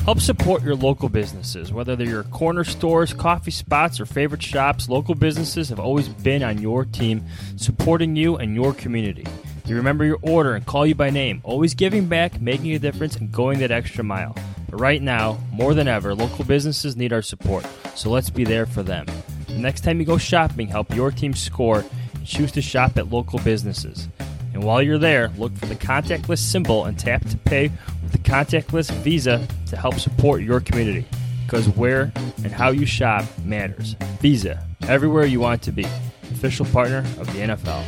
Help support your local businesses. Whether they're your corner stores, coffee spots, or favorite shops, local businesses have always been on your team, supporting you and your community. They remember your order and call you by name, always giving back, making a difference, and going that extra mile. But right now, more than ever, local businesses need our support, so let's be there for them. The next time you go shopping, help your team score and choose to shop at local businesses. And while you're there, look for the contactless symbol and tap to pay with the contactless Visa to help support your community. Because where and how you shop matters. Visa, everywhere you want to be. Official partner of the NFL.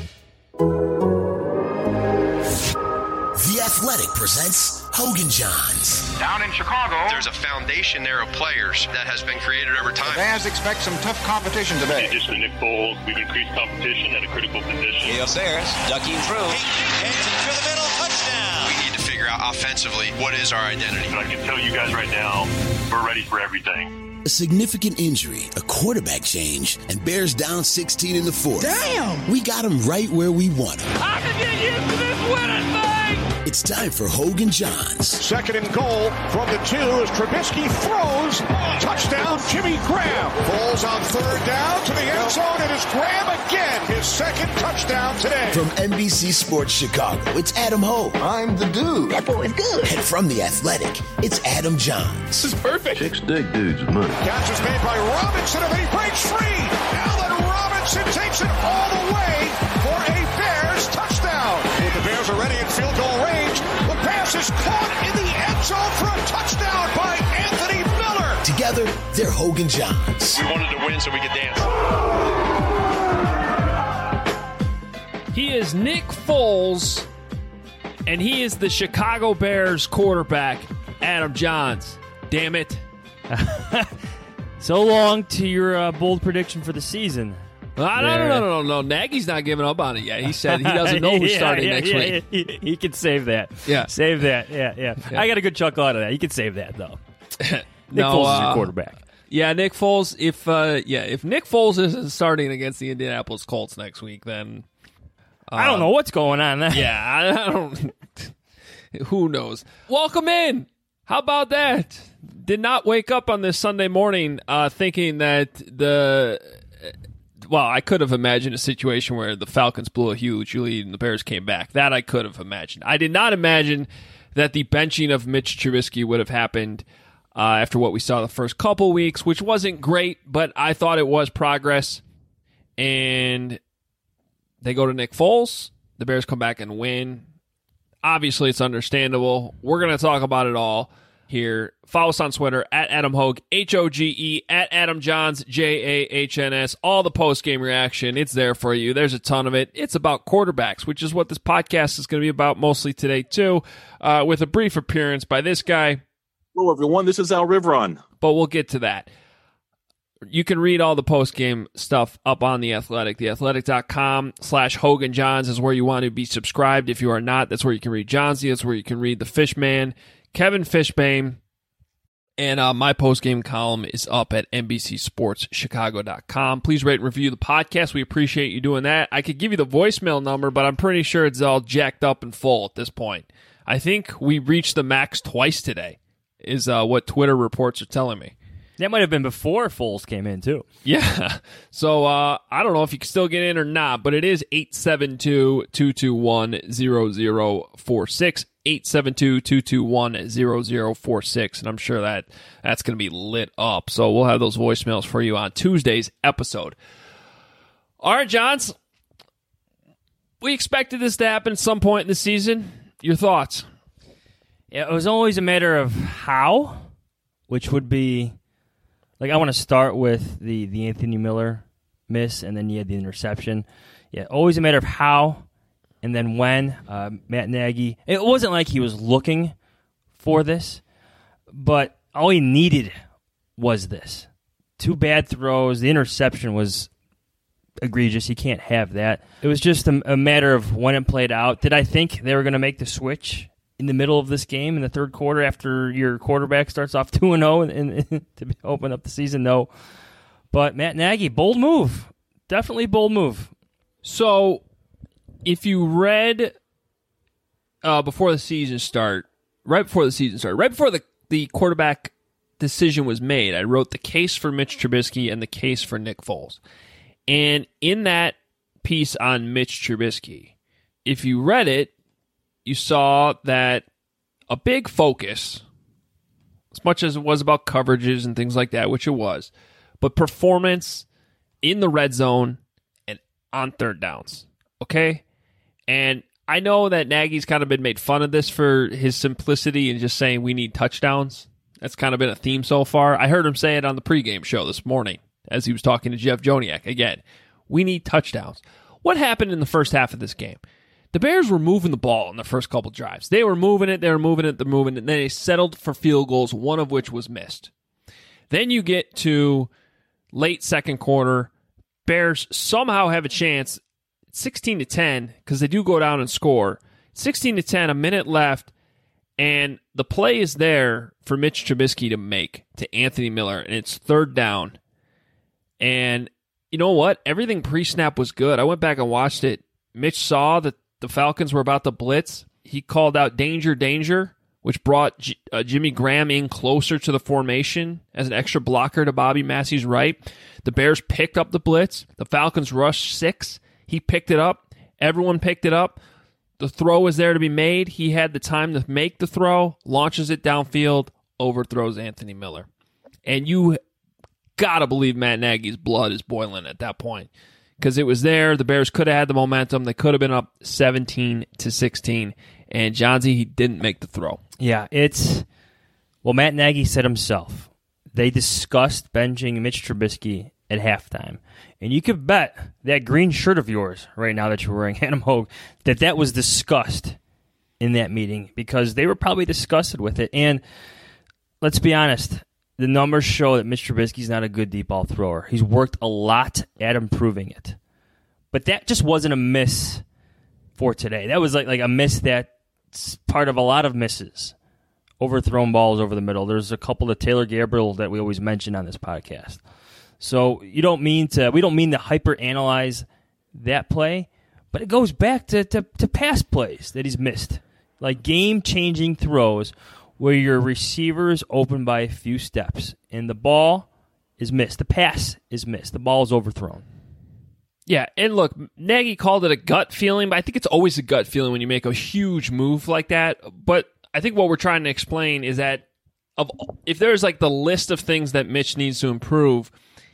The Athletic presents Hogan Johns. Down in Chicago, there's a foundation there of players that has been created over time. the fans expect some tough competition today. In addition to Nick Foles, we've increased competition at a critical position. Leo Sayers ducking through. Heads it through the middle, touchdown. We need to figure out offensively what is our identity. But I can tell you guys right now, we're ready for everything. A significant injury, a quarterback change, and Bears down 16 in the fourth. Damn! We got them right where we want them. I can get used to this winning thing! It's time for Hogan Johns. Second and goal from the 2 as Trubisky throws. Touchdown, Jimmy Graham. Falls on third down to the end zone. It is Graham again. His second touchdown today. From NBC Sports Chicago, it's Adam Hogue. I'm the dude. That boy is good. And from The Athletic, it's Adam Johns. This is perfect. Chicks dig dudes with money. Catch is made by Robinson, and then he breaks free. Allen Robinson takes it all the way for a Bears touchdown. If the Bears are ready in field goal range, the pass is caught in the end zone for a touchdown by Anthony Miller. Together, they're Hogan Johns. We wanted to win so we could dance. He is Nick Foles, and he is the Chicago Bears quarterback, Adam Johns. Damn it. So long to your bold prediction for the season. No. Nagy's not giving up on it yet. He said he doesn't know who's starting next week. He can save that. Yeah. Save that. Yeah. I got a good chuckle out of that. You can save that, though. Nick No, Foles is your quarterback. Yeah, Nick Foles. If Nick Foles isn't starting against the Indianapolis Colts next week, then I don't know what's going on there. yeah, I don't. Who knows? Welcome in. How about that? Did not wake up on this Sunday morning thinking that I could have imagined a situation where the Falcons blew a huge lead and the Bears came back. That I could have imagined. I did not imagine that the benching of Mitch Trubisky would have happened after what we saw the first couple weeks, which wasn't great, but I thought it was progress. And they go to Nick Foles. The Bears come back and win. Obviously, it's understandable. We're going to talk about it all here. Follow us on Twitter at Adam Hogue, Hoge, at Adam Johns, Jahns. All the post-game reaction, it's there for you. There's a ton of it. It's about quarterbacks, which is what this podcast is going to be about mostly today, too, with a brief appearance by this guy. Hello, everyone. This is Al Rivron. But we'll get to that. You can read all the post-game stuff up on The Athletic. TheAthletic.com/Hogan Johns is where you want to be subscribed. If you are not, that's where you can read Johnsy. That's where you can read the Fishman, Kevin Fishbane. And my post-game column is up at NBCSportsChicago.com. Please rate and review the podcast. We appreciate you doing that. I could give you the voicemail number, but I'm pretty sure it's all jacked up and full at this point. I think we reached the max twice today, is what Twitter reports are telling me. That might have been before Foles came in, too. Yeah. So I don't know if you can still get in or not, but it is 872-221-0046. 872-221-0046. And I'm sure that's going to be lit up. So we'll have those voicemails for you on Tuesday's episode. All right, Johns. We expected this to happen at some point in the season. Your thoughts? Yeah, it was always a matter of how, which would be... I want to start with the Anthony Miller miss, and then you had the interception. Yeah, always a matter of how, and then when. Matt Nagy, it wasn't like he was looking for this, but all he needed was this. 2 bad throws. The interception was egregious. You can't have that. It was just a matter of when it played out. Did I think they were going to make the switch in the middle of this game in the third quarter after your quarterback starts off 2-0 and to open up the season? No. But Matt Nagy, bold move. Definitely bold move. So if you read right before the season started, right before the the quarterback decision was made, I wrote the case for Mitch Trubisky and the case for Nick Foles. And in that piece on Mitch Trubisky, if you read it, you saw that a big focus, as much as it was about coverages and things like that, which it was, but performance in the red zone and on third downs. Okay? And I know that Nagy's kind of been made fun of this for his simplicity and just saying we need touchdowns. That's kind of been a theme so far. I heard him say it on the pregame show this morning as he was talking to Jeff Joniak. Again, we need touchdowns. What happened in the first half of this game? The Bears were moving the ball in the first couple drives. They were moving it, and then they settled for field goals, one of which was missed. Then you get to late second quarter. Bears somehow have a chance, 16-10, because they do go down and score. 16-10, a minute left, and the play is there for Mitch Trubisky to make to Anthony Miller, and it's third down. And you know what? Everything pre-snap was good. I went back and watched it. Mitch saw that the Falcons were about to blitz. He called out danger, danger, which brought Jimmy Graham in closer to the formation as an extra blocker to Bobby Massey's right. The Bears picked up the blitz. The Falcons rushed 6. He picked it up. Everyone picked it up. The throw was there to be made. He had the time to make the throw, launches it downfield, overthrows Anthony Miller. And you got to believe Matt Nagy's blood is boiling at that point. Because it was there. The Bears could have had the momentum. They could have been up 17-16. And Johnsy, he didn't make the throw. Yeah, Matt Nagy said himself, they discussed benching Mitch Trubisky at halftime. And you could bet that green shirt of yours right now that you're wearing, Adam Hogue, that was discussed in that meeting because they were probably disgusted with it. And let's be honest, the numbers show that Mitch Trubisky's not a good deep ball thrower. He's worked a lot at improving it. But that just wasn't a miss for today. That was like a miss that's part of a lot of misses. Overthrown balls over the middle. There's a couple of Taylor Gabriel that we always mention on this podcast. So we don't mean to hyper-analyze that play, but it goes back to past plays that he's missed. Like game-changing throws where your receiver is open by a few steps, and the ball is missed. The pass is missed. The ball is overthrown. Yeah, and look, Nagy called it a gut feeling, but I think it's always a gut feeling when you make a huge move like that. But I think what we're trying to explain is that if there's like the list of things that Mitch needs to improve,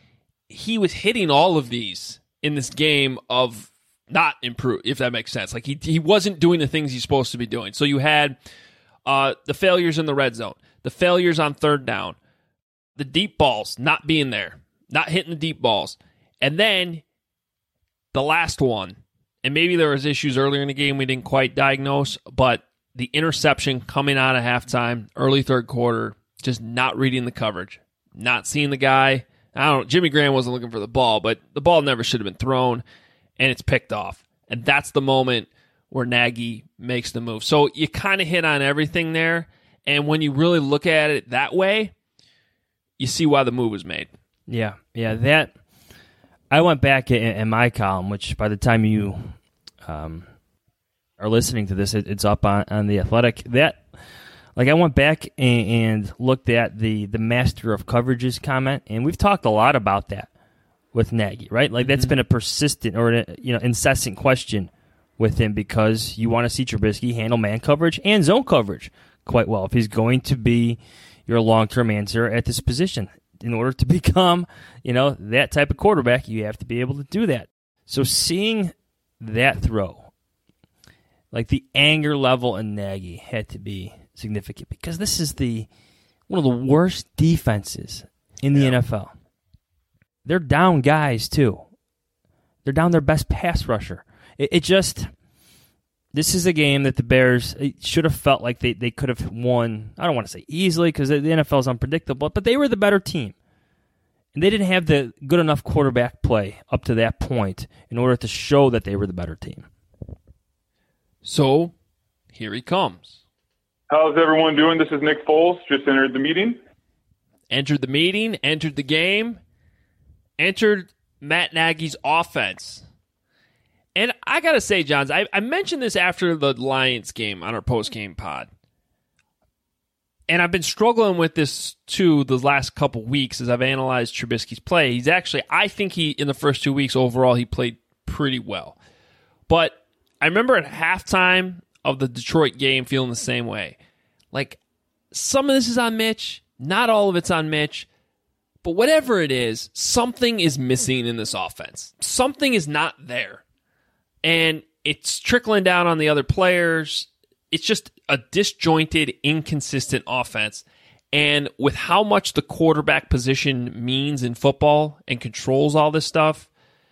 he was hitting all of these in this game of not improve, if that makes sense. Like he wasn't doing the things he's supposed to be doing. So you had the failures in the red zone, the failures on third down, the deep balls not being there, not hitting the deep balls. And then the last one, and maybe there was issues earlier in the game we didn't quite diagnose, but the interception coming out of halftime, early third quarter, just not reading the coverage, not seeing the guy. Jimmy Graham wasn't looking for the ball, but the ball never should have been thrown, and it's picked off. And that's the moment where Nagy makes the move. So you kind of hit on everything there, and when you really look at it that way, you see why the move was made. Yeah, that I went back in my column, which by the time you are listening to this, it's up on The Athletic. I went back and looked at the master of coverages comment, and we've talked a lot about that with Nagy, right? Like that's been a persistent or incessant question with him because you want to see Trubisky handle man coverage and zone coverage quite well if he's going to be your long-term answer at this position. In order to become, that type of quarterback, you have to be able to do that. So seeing that throw, like the anger level in Nagy had to be significant because this is one of the worst defenses in the NFL. They're down guys too. They're down their best pass rusher. This is a game that the Bears should have felt like they could have won. I don't want to say easily because the NFL is unpredictable, but they were the better team. And they didn't have the good enough quarterback play up to that point in order to show that they were the better team. So, here he comes. How's everyone doing? This is Nick Foles. Just entered the meeting. Entered the meeting, entered the game, entered Matt Nagy's offense. And I got to say, Johns, I mentioned this after the Lions game on our post-game pod. And I've been struggling with this, too, the last couple weeks as I've analyzed Trubisky's play. He's actually, I think in the first 2 weeks overall, he played pretty well. But I remember at halftime of the Detroit game feeling the same way. Like, some of this is on Mitch. Not all of it's on Mitch. But whatever it is, something is missing in this offense. Something is not there. And it's trickling down on the other players. It's just a disjointed, inconsistent offense. And with how much the quarterback position means in football and controls all this stuff,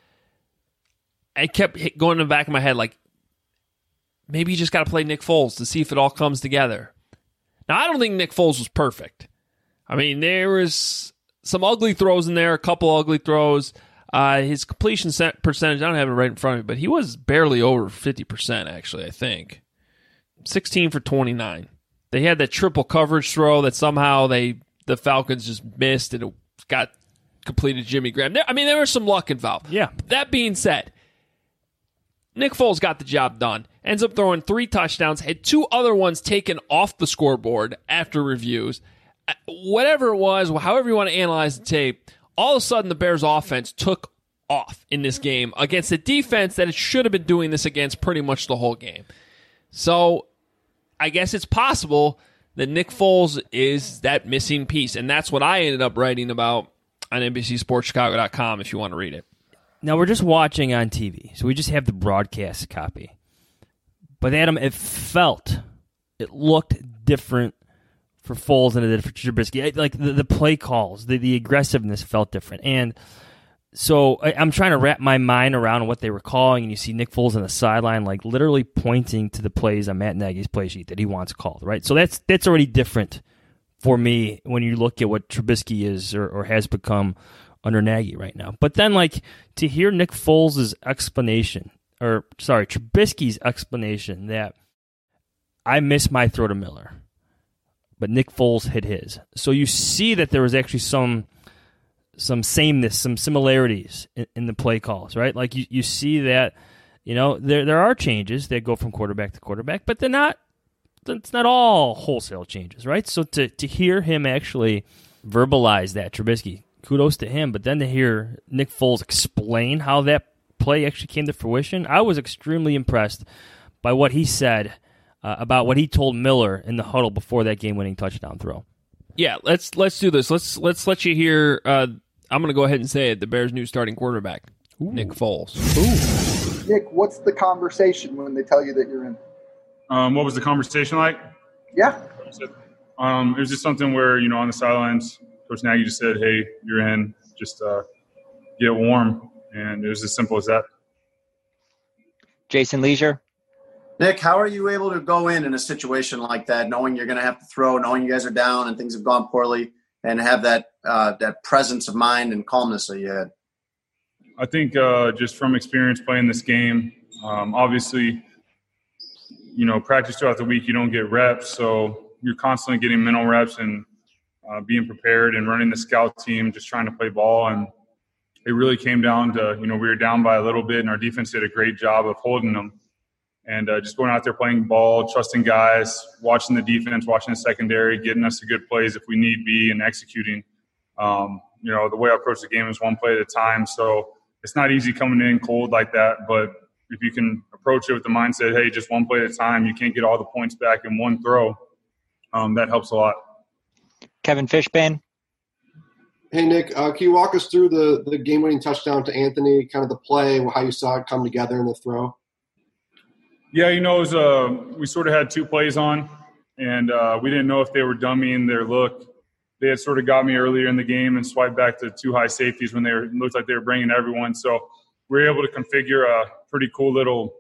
I kept going in the back of my head like, maybe you just got to play Nick Foles to see if it all comes together. Now, I don't think Nick Foles was perfect. I mean, there was some ugly throws in there, a couple ugly throws. His completion percentage, I don't have it right in front of me, but he was barely over 50%, actually, I think. 16 for 29. They had that triple coverage throw that somehow the Falcons just missed, and it got completed to Jimmy Graham. There was some luck involved. Yeah. That being said, Nick Foles got the job done. Ends up throwing 3 touchdowns, had 2 other ones taken off the scoreboard after reviews. Whatever it was, however you want to analyze the tape, all of a sudden the Bears offense took off in this game against a defense that it should have been doing this against pretty much the whole game. So I guess it's possible that Nick Foles is that missing piece, and that's what I ended up writing about on NBCSportsChicago.com if you want to read it. Now, we're just watching on TV, so we just have the broadcast copy. But, Adam, it looked different for Foles than it did for Trubisky. Like, the play calls, the aggressiveness felt different. And so I'm trying to wrap my mind around what they were calling, and you see Nick Foles on the sideline, like, literally pointing to the plays on Matt Nagy's play sheet that he wants called, right? So that's already different for me when you look at what Trubisky is or has become under Nagy right now. But then, like, to hear Nick Foles' Trubisky's explanation that I missed my throw to Miller, but Nick Foles hit his. So you see that there was actually some sameness, some similarities in the play calls, right? Like you see that, there are changes that go from quarterback to quarterback, but it's not all wholesale changes, right? So to hear him actually verbalize that, Trubisky, kudos to him, but then to hear Nick Foles explain how that play actually came to fruition, I was extremely impressed by what he said about what he told Miller in the huddle before that game-winning touchdown throw. Yeah, let's do this. Let's let you hear. I'm going to go ahead and say it. The Bears' new starting quarterback, Nick Foles. Ooh. Nick, what's the conversation when they tell you that you're in? What was the conversation like? Yeah. It was just something where, on the sidelines, Coach Nagy just said, "Hey, you're in. Just get warm," and it was as simple as that. Jason Leisure. Nick, how are you able to go in a situation like that, knowing you're going to have to throw, knowing you guys are down and things have gone poorly, and have that presence of mind and calmness that you had? I think just from experience playing this game, obviously, practice throughout the week, you don't get reps, so you're constantly getting mental reps and being prepared and running the scout team, just trying to play ball. And it really came down to, we were down by a little bit, and our defense did a great job of holding them. And just going out there playing ball, trusting guys, watching the defense, watching the secondary, getting us to good plays if we need be, and executing. The way I approach the game is one play at a time. So it's not easy coming in cold like that. But if you can approach it with the mindset, hey, just one play at a time, you can't get all the points back in one throw, that helps a lot. Kevin Fishbane. Hey, Nick, can you walk us through the game-winning touchdown to Anthony, kind of the play, how you saw it come together in the throw? Yeah, it was we sort of had 2 plays on, and we didn't know if they were dummying their look. They had sort of got me earlier in the game and swiped back to 2 high safeties when looked like they were bringing everyone. So we were able to configure a pretty cool little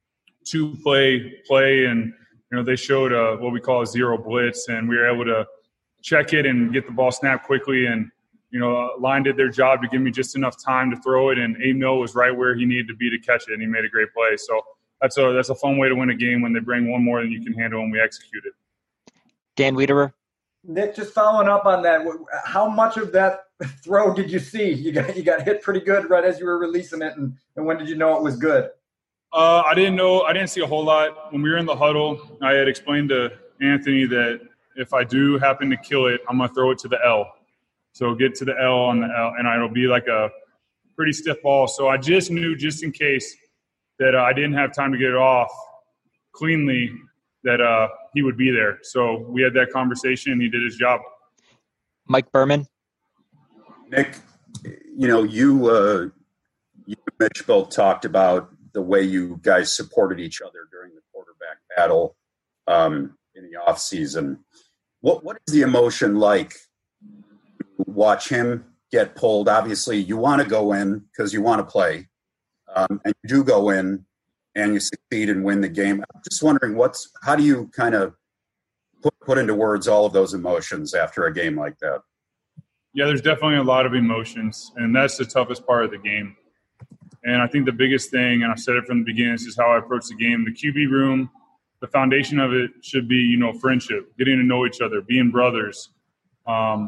2-play, and they showed what we call a zero blitz, and we were able to check it and get the ball snapped quickly. And line did their job to give me just enough time to throw it, and Abe Noah was right where he needed to be to catch it, and he made a great play. So that's a fun way to win a game when they bring one more than you can handle and we execute it. Dan Wiederer. Nick, just following up on that, how much of that throw did you see? You got hit pretty good right as you were releasing it, and when did you know it was good? I didn't see a whole lot. When we were in the huddle, I had explained to Anthony that if I do happen to kill it, I'm going to throw it to the L. So get to the L on the L, and it'll be like a pretty stiff ball. So I just knew, just in case, that I didn't have time to get it off cleanly, that he would be there. So we had that conversation, and he did his job. Mike Berman. Nick, you and Mitch both talked about the way you guys supported each other during the quarterback battle in the off season. What is the emotion like to watch him get pulled? Obviously, you want to go in because you want to play, and you do go in and you succeed and win the game. I'm just wondering, how do you kind of put into words all of those emotions after a game like that? Yeah, there's definitely a lot of emotions, and that's the toughest part of the game. And I think the biggest thing, and I've said it from the beginning, this is how I approach the game. The QB room, the foundation of it should be, friendship, getting to know each other, being brothers. And,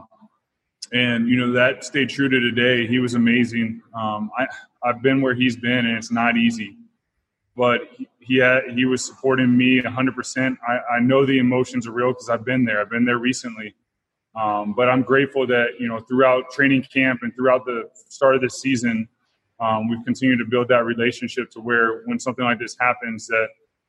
that stayed true to today. He was amazing. I've been where he's been, and it's not easy. But he was supporting me 100%. I know the emotions are real because I've been there. I've been there recently. But I'm grateful that, throughout training camp and throughout the start of this season, we've continued to build that relationship to where when something like this happens, that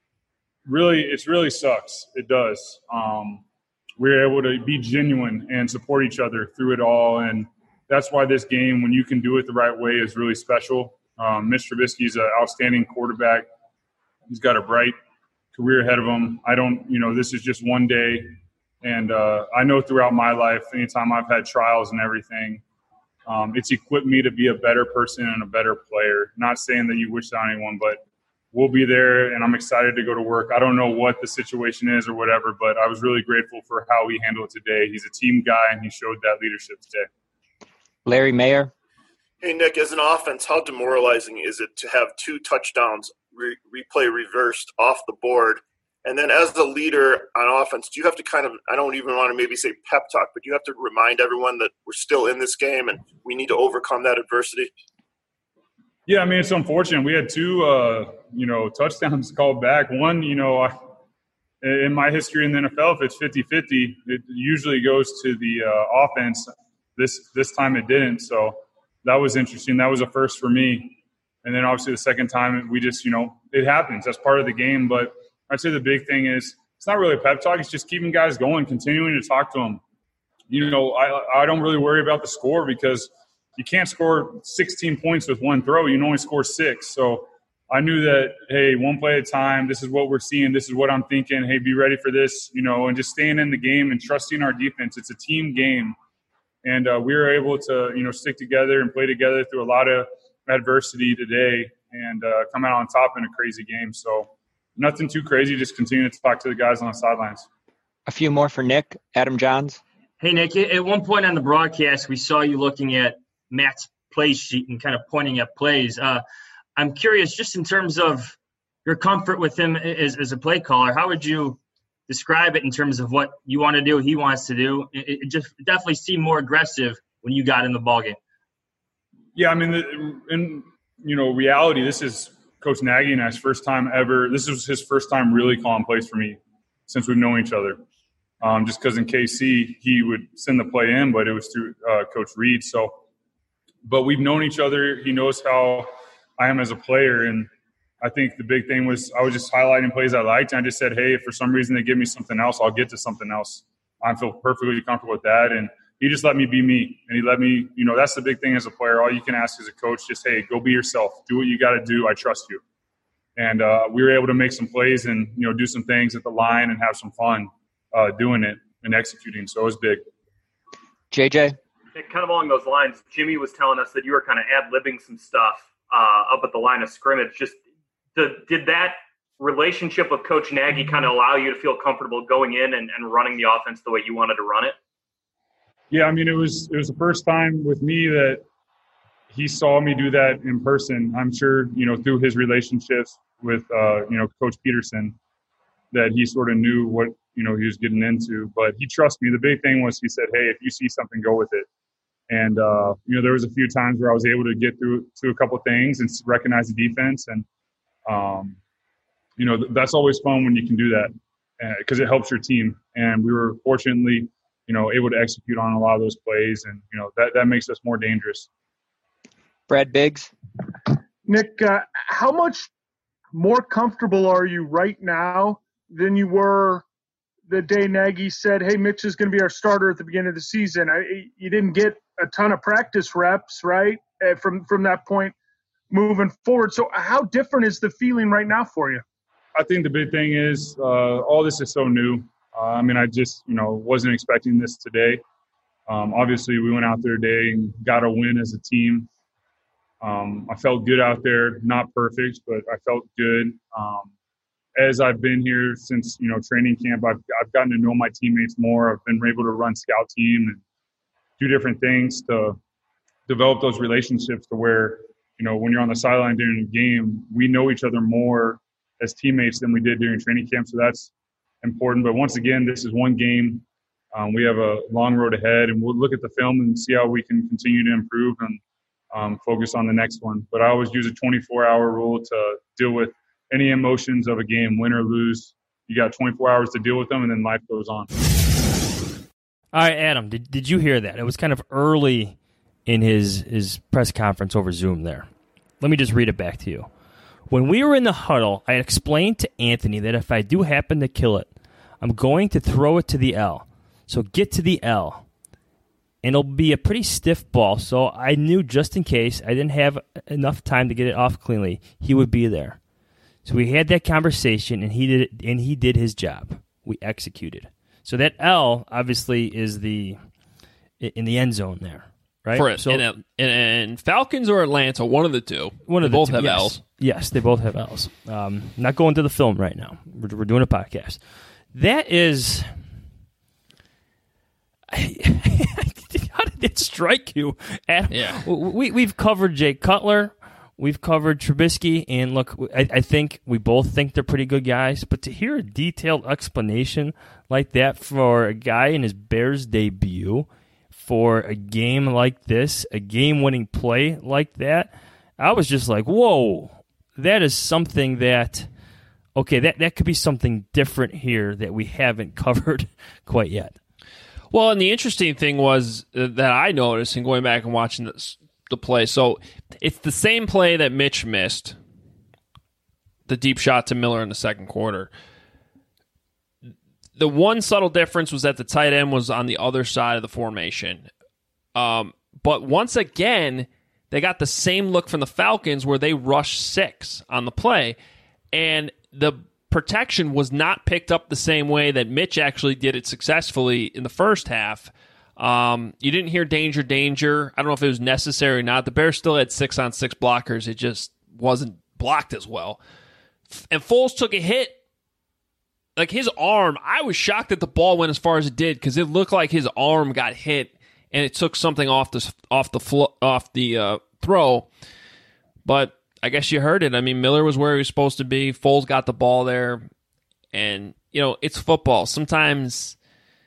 it really sucks. It does. We're able to be genuine and support each other through it all. And that's why this game, when you can do it the right way, is really special. Mitch Trubisky is an outstanding quarterback. He's got a bright career ahead of him. This is just one day. And I know throughout my life, anytime I've had trials and everything, it's equipped me to be a better person and a better player. Not saying that you wish that on anyone, but we'll be there, and I'm excited to go to work. I don't know what the situation is or whatever, but I was really grateful for how he handled it today. He's a team guy, and he showed that leadership today. Larry Mayer. Hey, Nick, as an offense, how demoralizing is it to have 2 touchdowns replay reversed off the board? And then as a leader on offense, do you have to I don't even want to maybe say pep talk, but you have to remind everyone that we're still in this game and we need to overcome that adversity? Yeah, it's unfortunate. We had 2, touchdowns called back. One, in my history in the NFL, if it's 50-50, it usually goes to the offense. This time it didn't, so that was interesting. That was a first for me. And then obviously the second time, we just, it happens. That's part of the game, but I'd say the big thing is it's not really a pep talk. It's just keeping guys going, continuing to talk to them. I don't really worry about the score because you can't score 16 points with one throw. You can only score 6. So I knew that, hey, one play at a time, this is what we're seeing, this is what I'm thinking, hey, be ready for this, and just staying in the game and trusting our defense. It's a team game. And we were able to, stick together and play together through a lot of adversity today and come out on top in a crazy game. So nothing too crazy, just continue to talk to the guys on the sidelines. A few more for Nick. Adam Johns. Hey, Nick, at one point on the broadcast, we saw you looking at Matt's play sheet and kind of pointing at plays. I'm curious, just in terms of your comfort with him as a play caller, how would you describe it in terms of what you want to do, he wants to do? It just definitely seemed more aggressive when you got in the ballgame. Yeah, in reality, this is Coach Nagy and I's first time ever. This was his first time really calling plays for me since we've known each other. Just because in KC, he would send the play in, but it was through Coach Reed. But we've known each other. He knows how I am as a player. And I think the big thing was I was just highlighting plays I liked. And I just said, hey, if for some reason they give me something else, I'll get to something else. I feel perfectly comfortable with that. And he just let me be me. And he let me, that's the big thing as a player. All you can ask as a coach, just, hey, go be yourself. Do what you got to do. I trust you. And we were able to make some plays and, do some things at the line and have some fun doing it and executing. So it was big. JJ? Kind of along those lines, Jimmy was telling us that you were kind of ad-libbing some stuff up at the line of scrimmage. Just did that relationship with Coach Nagy kind of allow you to feel comfortable going in and running the offense the way you wanted to run it? Yeah, it was the first time with me that he saw me do that in person. I'm sure, through his relationships with, Coach Peterson, that he sort of knew what, he was getting into. But he trusts me. The big thing was he said, hey, if you see something, go with it. And, there was a few times where I was able to get through to a couple things and recognize the defense. And, that's always fun when you can do that. because it helps your team. And we were fortunately, able to execute on a lot of those plays, and that makes us more dangerous. Brad Biggs. Nick, how much more comfortable are you right now than you were the day Nagy said, hey, Mitch is going to be our starter at the beginning of the season? You didn't get a ton of practice reps, right, from that point moving forward. So how different is the feeling right now for you? I think the big thing is all this is so new. I just, wasn't expecting this today. Obviously, we went out there today and got a win as a team. I felt good out there, not perfect, but I felt good. As I've been here since, training camp, I've gotten to know my teammates more. I've been able to run scout team and do different things to develop those relationships to where, when you're on the sideline during a game, we know each other more as teammates than we did during training camp. So that's important. But once again, this is one game. We have a long road ahead, and we'll look at the film and see how we can continue to improve and focus on the next one. But I always use a 24-hour rule to deal with any emotions of a game, win or lose. You got 24 hours to deal with them, and then life goes on. All right, Adam, did you hear that? It was kind of early in his press conference over Zoom there. Let me just read it back to you. When we were in the huddle, I explained to Anthony that if I do happen to kill it, I'm going to throw it to the L. So get to the L. And it'll be a pretty stiff ball, so I knew just in case I didn't have enough time to get it off cleanly, he would be there. So we had that conversation, and he did his job. We executed. So that L obviously is in the end zone there, right? For it. So, and Falcons or Atlanta, one of the two. They both have yes. L's. Yes, they both have L's. Not going to the film right now. We're doing a podcast. That is. How did it strike you? Adam? Yeah. We've covered Jay Cutler. We've covered Trubisky, and look, I think we both think they're pretty good guys, but to hear a detailed explanation like that for a guy in his Bears debut, for a game like this, a game-winning play like that, I was just like, whoa, that is something that, okay, that could be something different here that we haven't covered quite yet. Well, and the interesting thing was that I noticed in going back and watching the play, so it's the same play that Mitch missed, the deep shot to Miller in the second quarter. The one subtle difference was that the tight end was on the other side of the formation. But once again, they got the same look from the Falcons where they rushed 6 on the play, and the protection was not picked up the same way that Mitch actually did it successfully in the first half. You didn't hear danger, danger. I don't know if it was necessary or not. The Bears still had 6-on-6 blockers. It just wasn't blocked as well. And Foles took a hit. Like his arm, I was shocked that the ball went as far as it did because it looked like his arm got hit and it took something off the throw. But I guess you heard it. I mean, Miller was where he was supposed to be. Foles got the ball there. And, it's football. Sometimes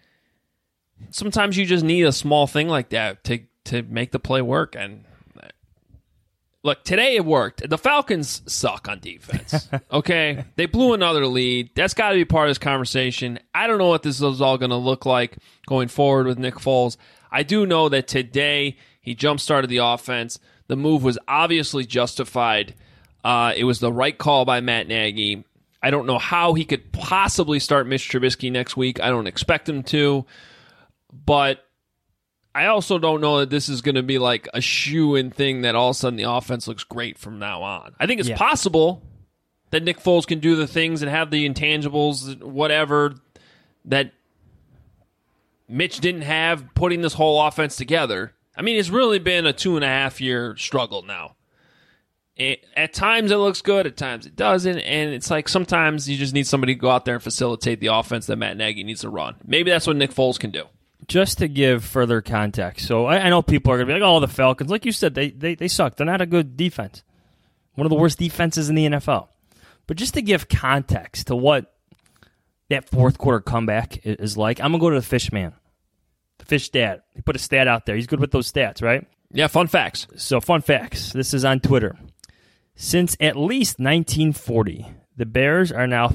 you just need a small thing like that to make the play work. And look, today it worked. The Falcons suck on defense. Okay? They blew another lead. That's got to be part of this conversation. I don't know what this is all going to look like going forward with Nick Foles. I do know that today he jump-started the offense. The move was obviously justified. It was the right call by Matt Nagy. I don't know how he could possibly start Mitch Trubisky next week. I don't expect him to. But I also don't know that this is going to be like a shoo-in thing that all of a sudden the offense looks great from now on. I think it's possible that Nick Foles can do the things and have the intangibles, whatever, that Mitch didn't have putting this whole offense together. I mean, it's really been a 2.5-year struggle now. At times it looks good, at times it doesn't, and it's like sometimes you just need somebody to go out there and facilitate the offense that Matt Nagy needs to run. Maybe that's what Nick Foles can do. Just to give further context, so I know people are going to be like, oh, the Falcons, like you said, they suck. They're not a good defense. One of the worst defenses in the NFL. But just to give context to what that fourth quarter comeback is like, I'm going to go to the Fish Man. The Fish stat. He put a stat out there. He's good with those stats, right? Yeah, fun facts. So fun facts. This is on Twitter. Since at least 1940, The Bears are now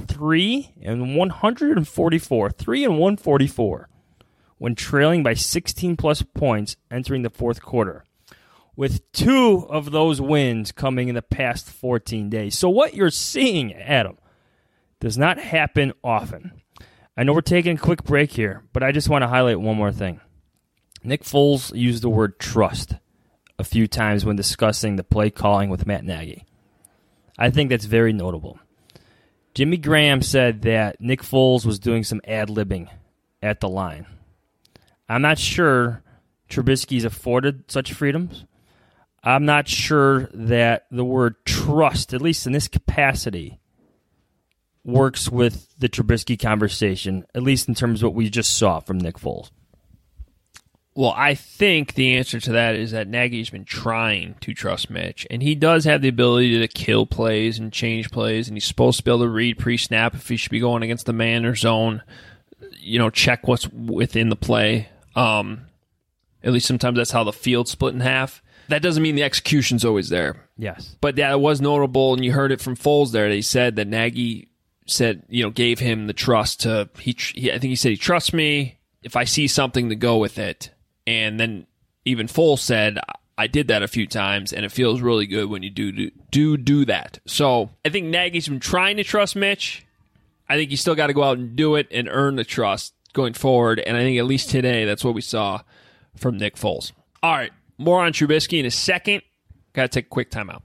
3-144 when trailing by 16-plus points entering the fourth quarter, with 2 of those wins coming in the past 14 days. So what you're seeing, Adam, does not happen often. I know we're taking a quick break here, but I just want to highlight one more thing. Nick Foles used the word trust a few times when discussing the play calling with Matt Nagy. I think that's very notable. Jimmy Graham said that Nick Foles was doing some ad-libbing at the line. I'm not sure Trubisky's afforded such freedoms. I'm not sure that the word trust, at least in this capacity, works with the Trubisky conversation, at least in terms of what we just saw from Nick Foles. Well, I think the answer to that is that Nagy's been trying to trust Mitch, and he does have the ability to kill plays and change plays, and he's supposed to be able to read pre-snap if he should be going against the man or zone, check what's within the play. At least sometimes that's how the field's split in half. That doesn't mean the execution's always there. Yes. But that was notable, and you heard it from Foles there. They said that Nagy said, gave him the trust to, I think he said he trusts me if I see something to go with it. And then even Foles said, I did that a few times, and it feels really good when you do that. So I think Nagy's been trying to trust Mitch. I think you still got to go out and do it and earn the trust going forward. And I think at least today, that's what we saw from Nick Foles. All right, more on Trubisky in a second. Got to take a quick timeout.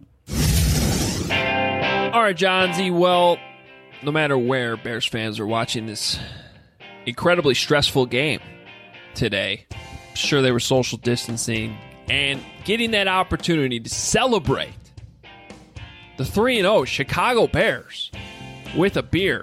All right, Johnsy. Well, no matter where Bears fans are watching this incredibly stressful game today, sure they were social distancing and getting that opportunity to celebrate the 3-0 Chicago Bears with a beer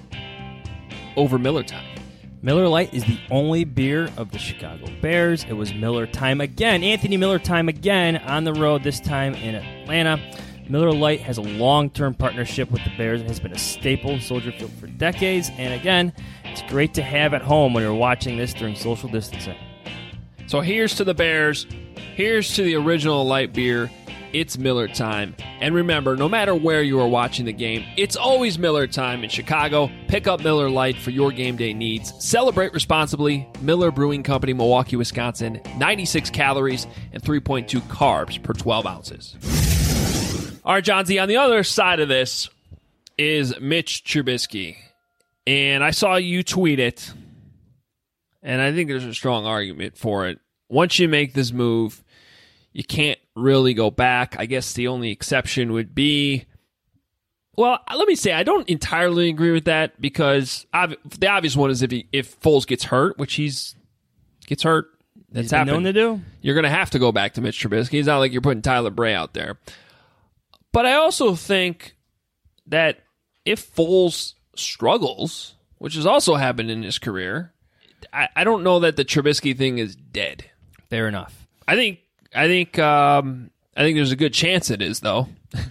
over Miller Time. Miller Lite is the only beer of the Chicago Bears. It was Miller Time again. Anthony Miller Time again on the road, this time in Atlanta. Miller Lite has a long-term partnership with the Bears and has been a staple in Soldier Field for decades. And again, it's great to have at home when you're watching this during social distancing. So here's to the Bears. Here's to the original light beer. It's Miller Time. And remember, no matter where you are watching the game, it's always Miller Time in Chicago. Pick up Miller Lite for your game day needs. Celebrate responsibly. Miller Brewing Company, Milwaukee, Wisconsin. 96 calories and 3.2 carbs per 12 ounces. All right, Johnsy, on the other side of this is Mitch Trubisky. And I saw you tweet it. And I think there's a strong argument for it. Once you make this move, you can't really go back. I guess the only exception would be, well, let me say, I don't entirely agree with that because the obvious one is if Foles gets hurt, which gets hurt, that's happened. Known to do. You're going to have to go back to Mitch Trubisky. It's not like you're putting Tyler Bray out there. But I also think that if Foles struggles, which has also happened in his career, I don't know that the Trubisky thing is dead. Fair enough. I think there's a good chance it is, though.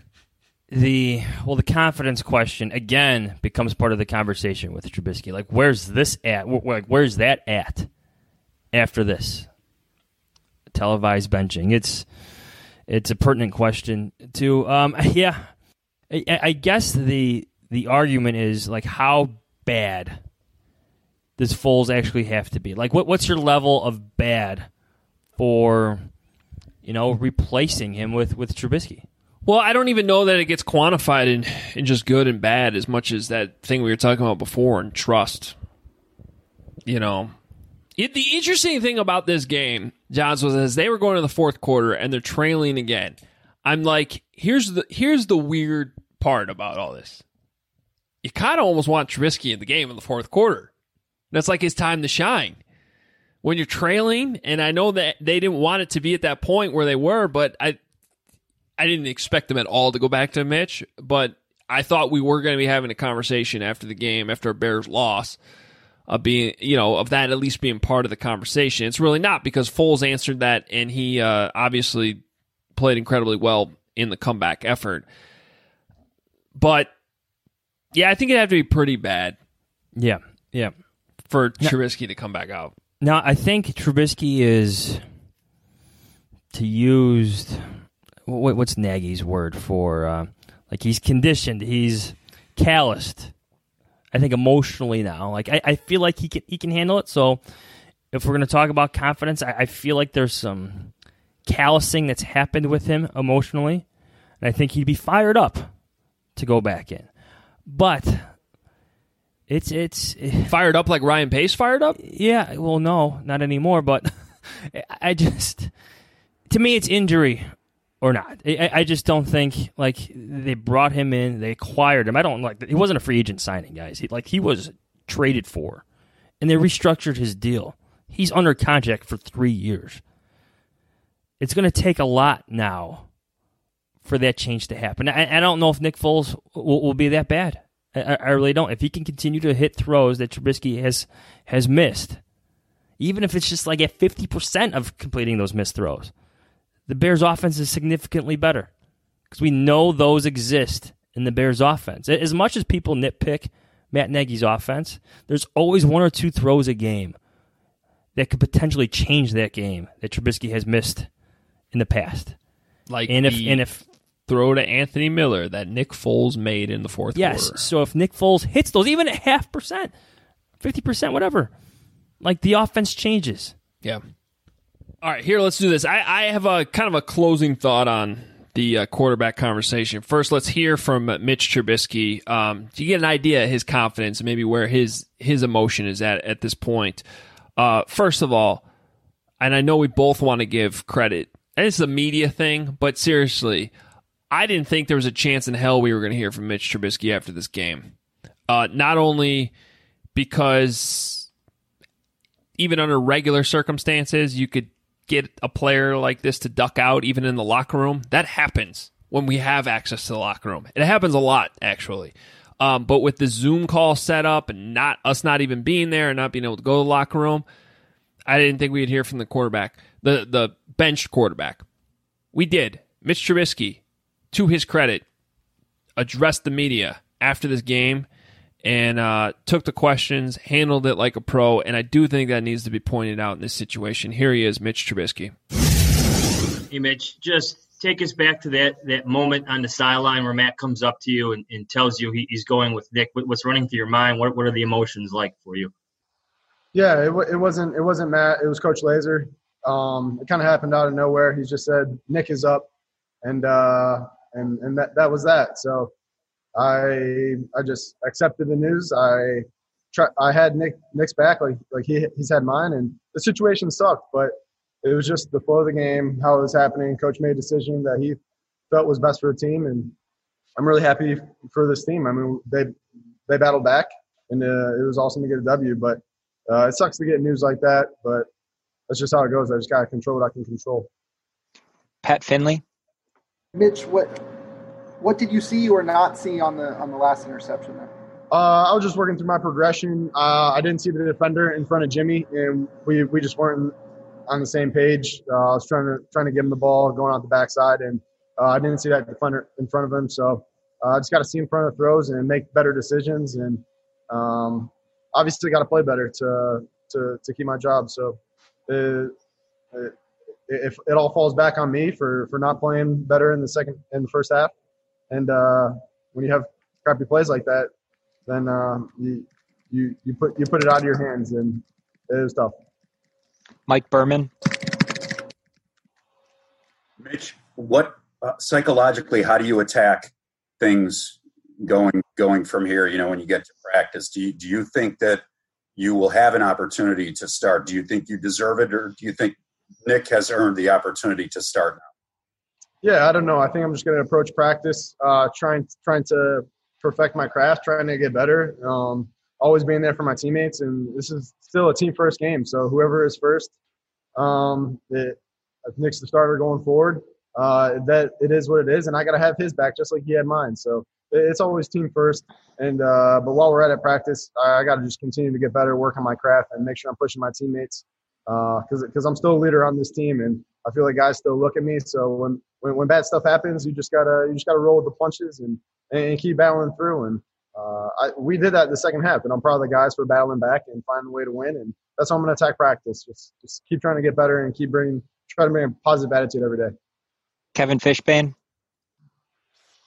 The confidence question again becomes part of the conversation with Trubisky. Like, where's this at? Where's that at after this televised benching? It's a pertinent question too. Yeah, I guess the argument is like, how bad does Foles actually have to be? Like, what's your level of bad for, replacing him with Trubisky? Well, I don't even know that it gets quantified in just good and bad as much as that thing we were talking about before in trust. The interesting thing about this game, Johns, was as they were going to the fourth quarter and they're trailing again, I'm like, here's the weird part about all this. You kind of almost want Trubisky in the game in the fourth quarter. That's like his time to shine. When you're trailing, and I know that they didn't want it to be at that point where they were, but I didn't expect them at all to go back to Mitch, but I thought we were going to be having a conversation after the game, after a Bears loss, of that at least being part of the conversation. It's really not, because Foles answered that, and he obviously played incredibly well in the comeback effort. But, yeah, I think it'd have to be pretty bad. Yeah. For Trubisky to come back out. No, I think Trubisky is, to use, what's Nagy's word for, he's conditioned. He's calloused. I think emotionally now. Like I feel like he can handle it. So if we're going to talk about confidence, I feel like there's some callousing that's happened with him emotionally, and I think he'd be fired up to go back in. But it's fired up like Ryan Pace fired up? Yeah, well, no, not anymore. But to me, it's injury or not. I just don't think, like, they brought him in, they acquired him. I don't like, he wasn't a free agent signing, guys. He was traded for, and they restructured his deal. He's under contract for 3 years. It's going to take a lot now for that change to happen. I don't know if Nick Foles will be that bad. I really don't. If he can continue to hit throws that Trubisky has missed, even if it's just like at 50% of completing those missed throws, the Bears' offense is significantly better because we know those exist in the Bears' offense. As much as people nitpick Matt Nagy's offense, there's always 1 or 2 throws a game that could potentially change that game that Trubisky has missed in the past. Like if throw to Anthony Miller that Nick Foles made in the fourth quarter. Yes, so if Nick Foles hits those, even at 0.5%, 50%, whatever, like the offense changes. Yeah. All right, here, let's do this. I have a kind of a closing thought on the quarterback conversation. First, let's hear from Mitch Trubisky. To get an idea of his confidence and maybe where his emotion is at this point. First of all, and I know we both want to give credit, and it's a media thing, but seriously, I didn't think there was a chance in hell we were going to hear from Mitch Trubisky after this game. Not only because even under regular circumstances, you could get a player like this to duck out even in the locker room. That happens when we have access to the locker room. It happens a lot, actually. But with the Zoom call set up and not even being there and not being able to go to the locker room, I didn't think we'd hear from the quarterback, the benched quarterback. We did. Mitch Trubisky, to his credit, addressed the media after this game and took the questions, handled it like a pro, and I do think that needs to be pointed out in this situation. Here he is, Mitch Trubisky. Hey, Mitch, just take us back to that moment on the sideline where Matt comes up to you and tells you he's going with Nick. What's running through your mind? What are the emotions like for you? Yeah, it wasn't Matt. It was Coach Laser. It kind of happened out of nowhere. He just said Nick is up, and that was that. So I just accepted the news. I had Nick's back, like he's had mine, and the situation sucked, but it was just the flow of the game, how it was happening. Coach made a decision that he felt was best for the team, and I'm really happy for this team. I mean, they battled back, and it was awesome to get a W. But it sucks to get news like that, but that's just how it goes. I just gotta control what I can control. Pat Finley, Mitch, what did you see or not see on the last interception there? I was just working through my progression. I didn't see the defender in front of Jimmy, and we just weren't on the same page. I was trying to give him the ball going out the backside, and I didn't see that defender in front of him. So I just got to see in front of the throws and make better decisions, and obviously got to play better to keep my job. So if it all falls back on me for not playing better in the first half, and when you have crappy plays like that, then you put it out of your hands, and it is tough. Mike Berman. Mitch, what psychologically, how do you attack things going from here? You know, when you get to practice, do you think that you will have an opportunity to start? Do you think you deserve it, or do you think Nick has earned the opportunity to start now? Yeah, I don't know. I think I'm just going to approach practice, trying to perfect my craft, trying to get better. Always being there for my teammates, and this is still a team first game. So whoever is first, Nick's the starter going forward. That it is what it is, and I got to have his back just like he had mine. So it's always team first. And but while we're at it practice, I got to just continue to get better, work on my craft, and make sure I'm pushing my teammates because I'm still a leader on this team, and I feel like guys still look at me. So when bad stuff happens, you just gotta roll with the punches and keep battling through. And we did that in the second half, and I'm proud of the guys for battling back and finding a way to win. And that's how I'm going to attack practice. Just keep trying to get better and try to bring a positive attitude every day. Kevin Fishbane.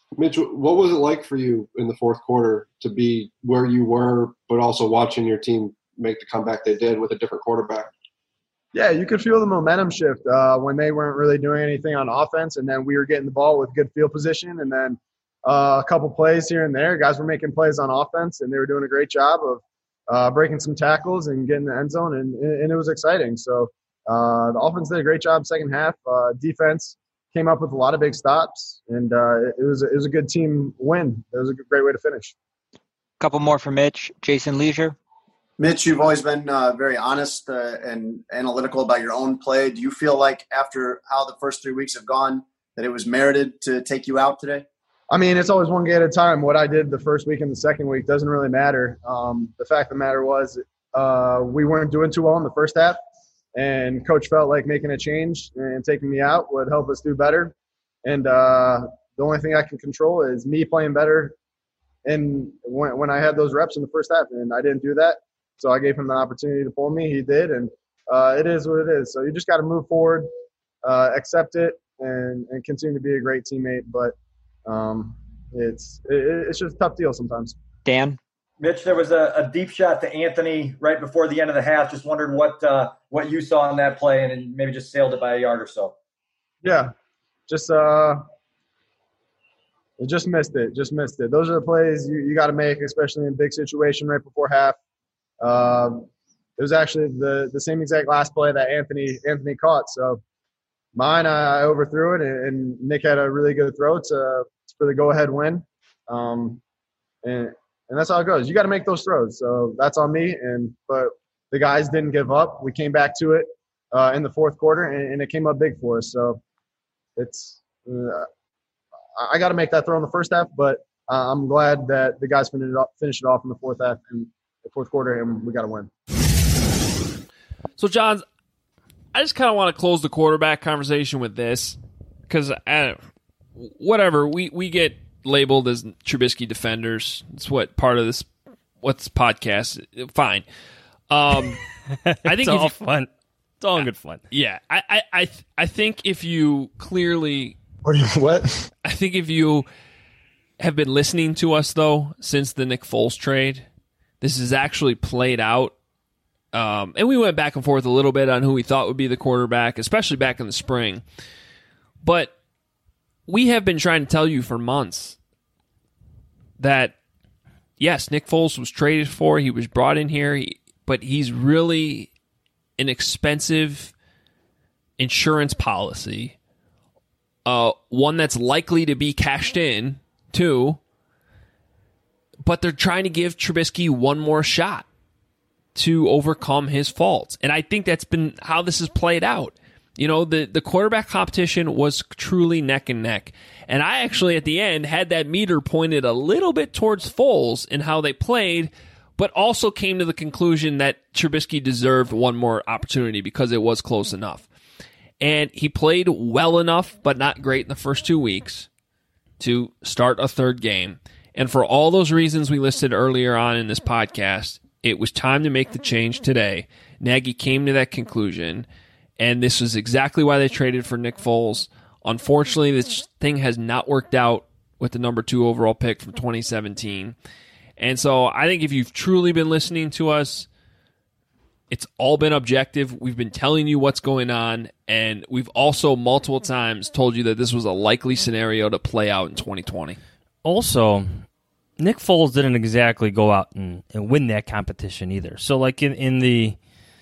Mitch, what was it like for you in the fourth quarter to be where you were, but also watching your team make the comeback they did with a different quarterback? Yeah, you could feel the momentum shift when they weren't really doing anything on offense, and then we were getting the ball with good field position, and then a couple plays here and there. Guys were making plays on offense, and they were doing a great job of breaking some tackles and getting the end zone, and it was exciting. So the offense did a great job second half. Defense came up with a lot of big stops, and it was a good team win. It was a great way to finish. Couple more for Mitch. Jason Leisure. Mitch, you've always been very honest and analytical about your own play. Do you feel like after how the first 3 weeks have gone that it was merited to take you out today? I mean, it's always one game at a time. What I did the first week and the second week doesn't really matter. The fact of the matter was we weren't doing too well in the first half, and Coach felt like making a change and taking me out would help us do better. And the only thing I can control is me playing better and when I had those reps in the first half, and I didn't do that. So I gave him the opportunity to pull me. He did, and it is what it is. So you just got to move forward, accept it, and continue to be a great teammate. But it's just a tough deal sometimes. Dan? Mitch, there was a deep shot to Anthony right before the end of the half. Just wondered what you saw in that play, and maybe just sailed it by a yard or so. Yeah, just missed it. Just missed it. Those are the plays you got to make, especially in a big situation right before half. It was actually the same exact last play that Anthony caught. So mine, I overthrew it, and Nick had a really good throw for the go-ahead win. And that's how it goes. You got to make those throws. So that's on me. But the guys didn't give up. We came back to it in the fourth quarter, and it came up big for us. So it's I got to make that throw in the first half, but I'm glad that the guys finished it off in the fourth half and the fourth quarter, and we got to win. So, John, I just kind of want to close the quarterback conversation with this because whatever, we get labeled as Trubisky defenders. It's what part of this podcast. Fine. I think it's all fun. It's all good fun. Yeah, I think if you clearly what? I think if you have been listening to us though since the Nick Foles trade, this has actually played out. And we went back and forth a little bit on who we thought would be the quarterback, especially back in the spring. But we have been trying to tell you for months that, yes, Nick Foles was traded for. He was brought in here, but he's really an expensive insurance policy, one that's likely to be cashed in, too. But they're trying to give Trubisky one more shot to overcome his faults. And I think that's been how this has played out. You know, the quarterback competition was truly neck and neck. And I actually, at the end, had that meter pointed a little bit towards Foles in how they played, but also came to the conclusion that Trubisky deserved one more opportunity because it was close enough. And he played well enough, but not great in the first 2 weeks to start a third game. And for all those reasons we listed earlier on in this podcast, it was time to make the change today. Nagy came to that conclusion, and this is exactly why they traded for Nick Foles. Unfortunately, this thing has not worked out with the number 2 overall pick from 2017. And so I think if you've truly been listening to us, it's all been objective. We've been telling you what's going on, and we've also multiple times told you that this was a likely scenario to play out in 2020. Also, Nick Foles didn't exactly go out and win that competition either. So, like in the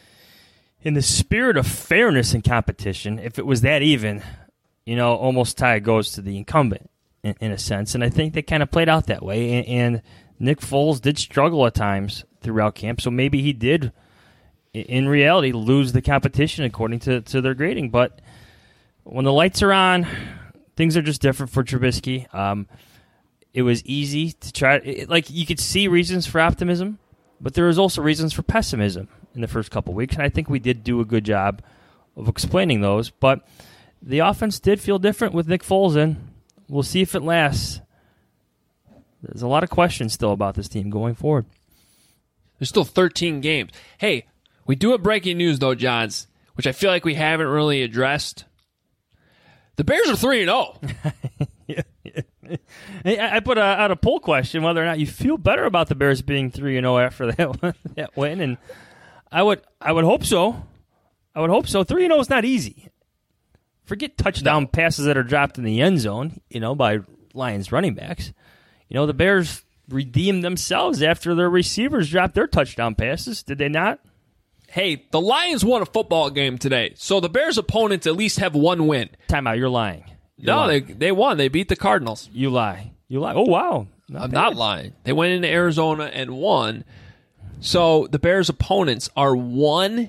spirit of fairness in competition, if it was that even, you know, almost tie goes to the incumbent in a sense. And I think they kind of played out that way. And Nick Foles did struggle at times throughout camp, so maybe he did, in reality, lose the competition according to their grading. But when the lights are on, things are just different for Trubisky. It was easy to try. Like, you could see reasons for optimism, but there was also reasons for pessimism in the first couple of weeks, and I think we did do a good job of explaining those. But the offense did feel different with Nick Foles in. We'll see if it lasts. There's a lot of questions still about this team going forward. There's still 13 games. Hey, we do have breaking news, though, Johns, which I feel like we haven't really addressed. The Bears are 3-0. Yeah. I put out a poll question whether or not you feel better about the Bears being 3-0 after that win, and I would hope so. I would hope so. 3-0 is not easy. Forget touchdown passes that are dropped in the end zone, by Lions running backs. The Bears redeemed themselves after their receivers dropped their touchdown passes. Did they not? Hey, the Lions won a football game today, so the Bears' opponents at least have one win. Time out, you're lying. They won. They beat the Cardinals. You lie. Oh, wow. I'm not lying. They went into Arizona and won. So the Bears' opponents are 1-8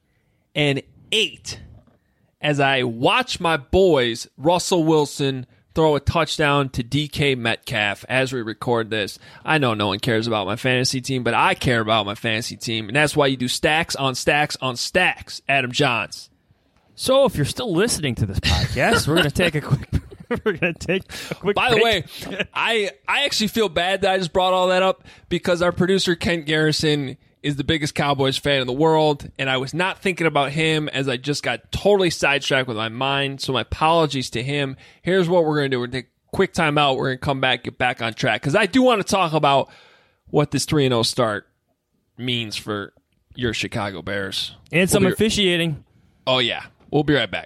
as I watch my boys, Russell Wilson, throw a touchdown to DK Metcalf as we record this. I know no one cares about my fantasy team, but I care about my fantasy team, and that's why you do stacks on stacks on stacks, Adam Johns. So if you're still listening to this podcast, we're going to take a quick By the way, I actually feel bad that I just brought all that up because our producer, Kent Garrison, is the biggest Cowboys fan in the world, and I was not thinking about him as I just got totally sidetracked with my mind, so my apologies to him. Here's what we're going to do. We're going to take a quick time out. We're going to come back, get back on track, because I do want to talk about what this 3-0 start means for your Chicago Bears. And some officiating. Oh, yeah. We'll be right back.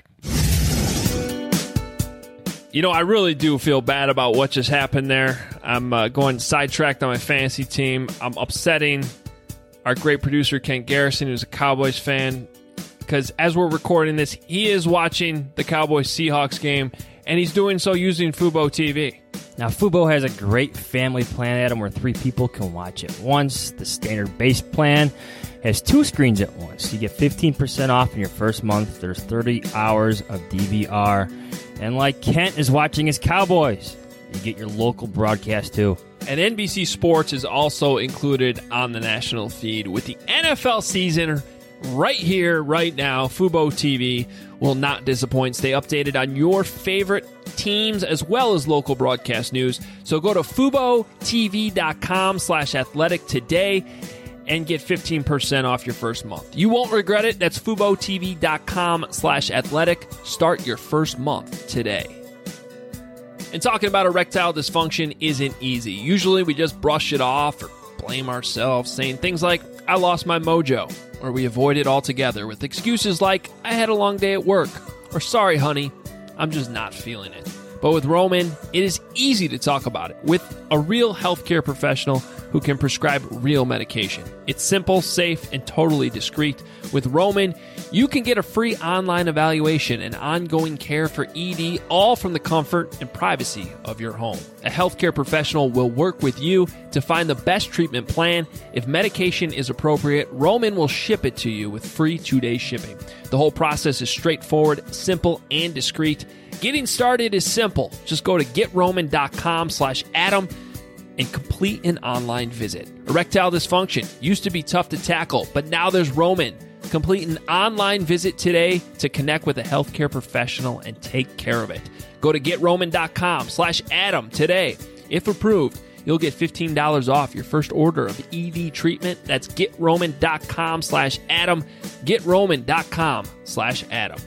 I really do feel bad about what just happened there. I'm going sidetracked on my fantasy team. I'm upsetting our great producer, Kent Garrison, who's a Cowboys fan, because as we're recording this, he is watching the Cowboys-Seahawks game, and he's doing so using Fubo TV. Now, Fubo has a great family plan, Adam, where 3 people can watch at once. The standard base plan has 2 screens at once. You get 15% off in your first month. There's 30 hours of DVR. And like Kent is watching his Cowboys, you get your local broadcast too. And NBC Sports is also included on the national feed with the NFL season right here, right now. Fubo TV will not disappoint. Stay updated on your favorite teams as well as local broadcast news. So go to FuboTV.com/athletic today and get 15% off your first month. You won't regret it. That's FuboTV.com/athletic. Start your first month today. And talking about erectile dysfunction isn't easy. Usually we just brush it off or blame ourselves, saying things like, I lost my mojo, or we avoid it altogether with excuses like, I had a long day at work, or sorry, honey, I'm just not feeling it. But with Roman, it is easy to talk about it with a real healthcare professional who can prescribe real medication. It's simple, safe, and totally discreet. With Roman, you can get a free online evaluation and ongoing care for ED, all from the comfort and privacy of your home. A healthcare professional will work with you to find the best treatment plan. If medication is appropriate, Roman will ship it to you with free 2-day shipping. The whole process is straightforward, simple, and discreet. Getting started is simple. Just go to GetRoman.com/Adam and complete an online visit. Erectile dysfunction used to be tough to tackle, but now there's Roman. Complete an online visit today to connect with a healthcare professional and take care of it. Go to GetRoman.com/Adam today. If approved, you'll get $15 off your first order of ED treatment. That's GetRoman.com/Adam. GetRoman.com/Adam.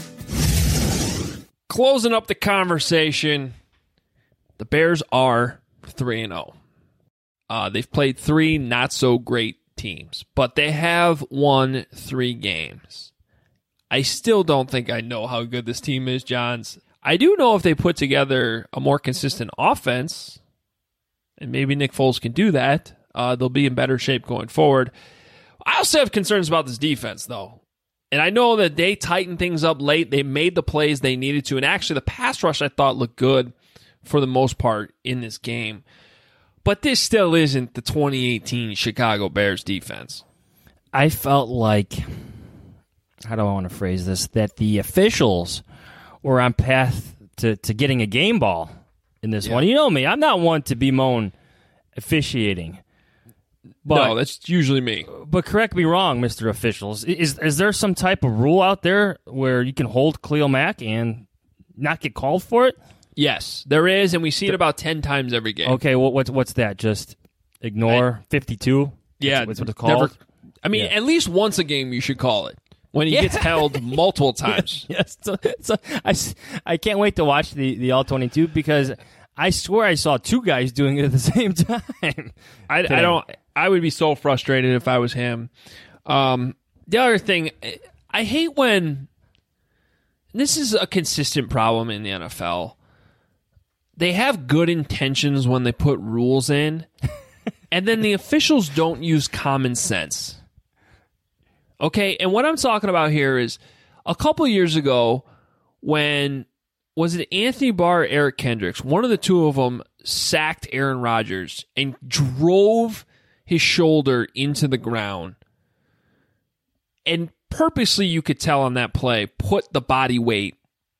Closing up the conversation, the Bears are 3-0. They've played 3 not-so-great teams, but they have won 3 games. I still don't think I know how good this team is, Johns. I do know if they put together a more consistent offense, and maybe Nick Foles can do that, they'll be in better shape going forward. I also have concerns about this defense, though. And I know that they tightened things up late. They made the plays they needed to. And actually, the pass rush, I thought, looked good for the most part in this game. But this still isn't the 2018 Chicago Bears defense. I felt like, how do I want to phrase this, that the officials were on path to getting a game ball in this one. You know me. I'm not one to bemoan officiating. But, no, that's usually me. But correct me wrong, Mr. Officials. Is there some type of rule out there where you can hold Khalil Mack and not get called for it? Yes, there is, and we see it about 10 times every game. Okay, what's that? Just ignore 52? Yeah. What's it called? At least once a game you should call it. When he gets held multiple times. Yes. So I can't wait to watch the All-22 because I swear I saw two guys doing it at the same time. I would be so frustrated if I was him. The other thing, I hate when this is a consistent problem in the NFL. They have good intentions when they put rules in, and then the officials don't use common sense. Okay, and what I'm talking about here is a couple years ago when, was it Anthony Barr or Eric Kendricks? One of the two of them sacked Aaron Rodgers and drove his shoulder into the ground. And purposely, you could tell on that play, put the body weight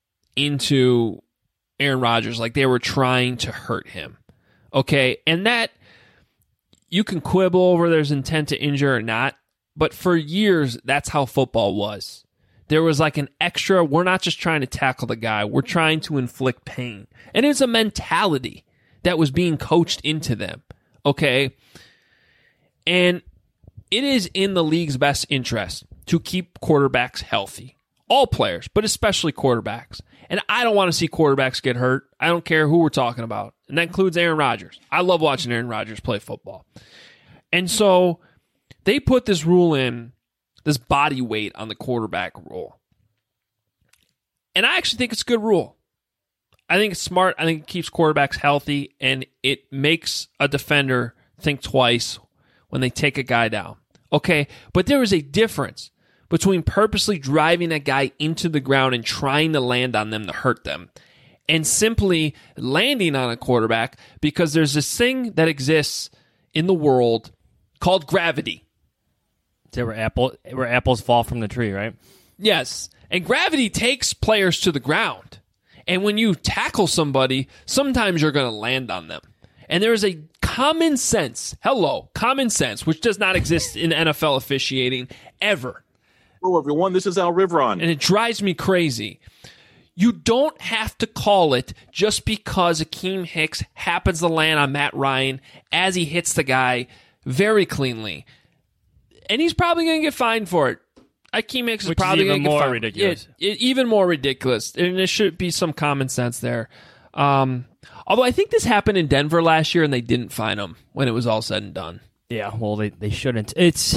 into Aaron Rodgers like they were trying to hurt him. Okay, and that, you can quibble over there's intent to injure or not, but for years, that's how football was. There was like an extra, we're not just trying to tackle the guy, we're trying to inflict pain. And it's a mentality that was being coached into them, okay? And it is in the league's best interest to keep quarterbacks healthy. All players, but especially quarterbacks. And I don't want to see quarterbacks get hurt. I don't care who we're talking about. And that includes Aaron Rodgers. I love watching Aaron Rodgers play football. And so they put this rule in, this body weight on the quarterback rule. And I actually think it's a good rule. I think it's smart. I think it keeps quarterbacks healthy, and it makes a defender think twice when they take a guy down. Okay, but there is a difference between purposely driving a guy into the ground and trying to land on them to hurt them, and simply landing on a quarterback because there's this thing that exists in the world called gravity. Is that where apples fall from the tree, right? Yes. And gravity takes players to the ground. And when you tackle somebody, sometimes you're going to land on them. And there is a common sense, which does not exist in NFL officiating ever. Hello, everyone. This is Al Riveron. And it drives me crazy. You don't have to call it just because Akeem Hicks happens to land on Matt Ryan as he hits the guy very cleanly. And he's probably going to get fined for it. Akeem Hicks is probably going to get fined. Ridiculous. Even more ridiculous. And there should be some common sense there. Although I think this happened in Denver last year and they didn't fine him when it was all said and done. Yeah, well, they shouldn't.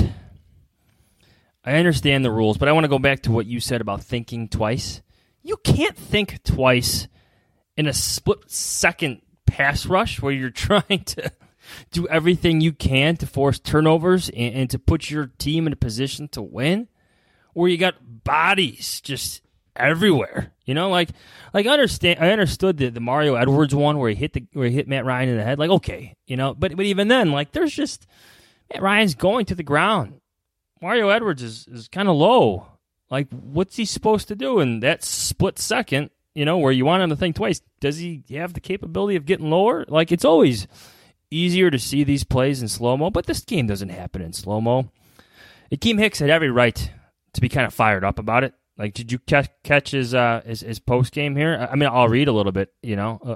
I understand the rules, but I want to go back to what you said about thinking twice. You can't think twice in a split-second pass rush where you're trying to do everything you can to force turnovers and to put your team in a position to win, where you got bodies just everywhere. You know, like I understood the Mario Edwards one where he hit Matt Ryan in the head. Like, okay, you know, but even then, like, there's just Matt Ryan's going to the ground. Mario Edwards is kind of low. Like, what's he supposed to do in that split second, you know, where you want him to think twice? Does he have the capability of getting lower? Like, it's always easier to see these plays in slow-mo, but this game doesn't happen in slow-mo. Akeem Hicks had every right to be kind of fired up about it. Like, did you catch his post-game here? I mean, I'll read a little bit, you know,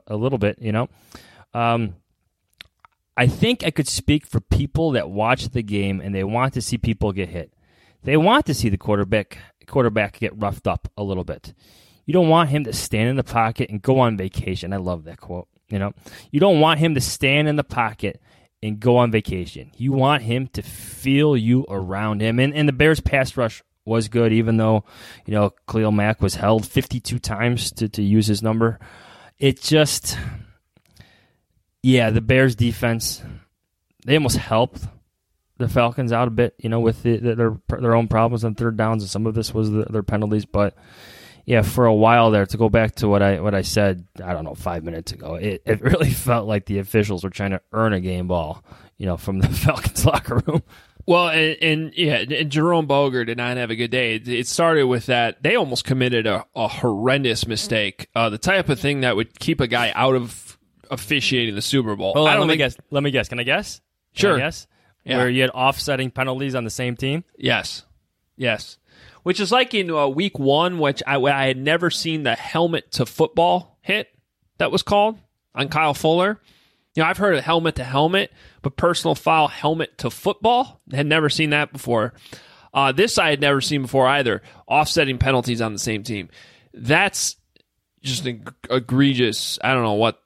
I think I could speak for people that watch the game and they want to see people get hit. They want to see the quarterback get roughed up a little bit. You don't want him to stand in the pocket and go on vacation. I love that quote. You know, you don't want him to stand in the pocket and go on vacation. You want him to feel you around him. And the Bears pass rush was good, even though, you know, Khalil Mack was held 52 times to use his number. It just, yeah, the Bears defense, they almost helped the Falcons out a bit, you know, with their own problems on third downs, and some of this was their penalties. But yeah, for a while there, to go back to what I said, I don't know, 5 minutes ago, it really felt like the officials were trying to earn a game ball, you know, from the Falcons locker room. Well, and Jerome Boger did not have a good day. It started with that they almost committed a horrendous mistake, the type of thing that would keep a guy out of officiating the Super Bowl. Hold on, let me guess. Can I guess? Sure. Can I guess? Yeah. Where you had offsetting penalties on the same team? Yes. Which is like in week 1, which I had never seen the helmet to football hit that was called on Kyle Fuller. You know, I've heard of helmet to helmet, but personal foul helmet to football, had never seen that before. This I had never seen before either. Offsetting penalties on the same team. That's just egregious. I don't know what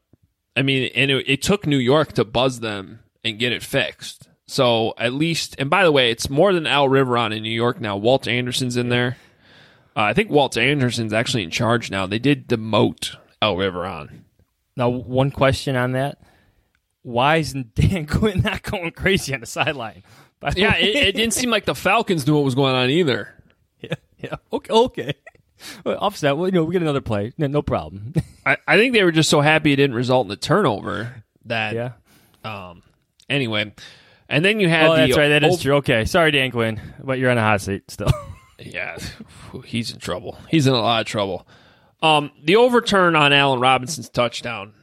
I mean, and it took New York to buzz them and get it fixed. So at least, and by the way, it's more than Al Riveron in New York now. Walt Anderson's in there. I think Walt Anderson's actually in charge now. They did demote Al Riveron. Now, one question on that. Why isn't Dan Quinn not going crazy on the sideline? Yeah, it didn't seem like the Falcons knew what was going on either. Yeah. Okay. Well, offset. Well, we get another play. No problem. I think they were just so happy it didn't result in a turnover that. Yeah. Anyway, and then you had the. That's right. That is true. Okay. Sorry, Dan Quinn, but you're on a hot seat still. Yeah, he's in trouble. He's in a lot of trouble. The overturn on Allen Robinson's touchdown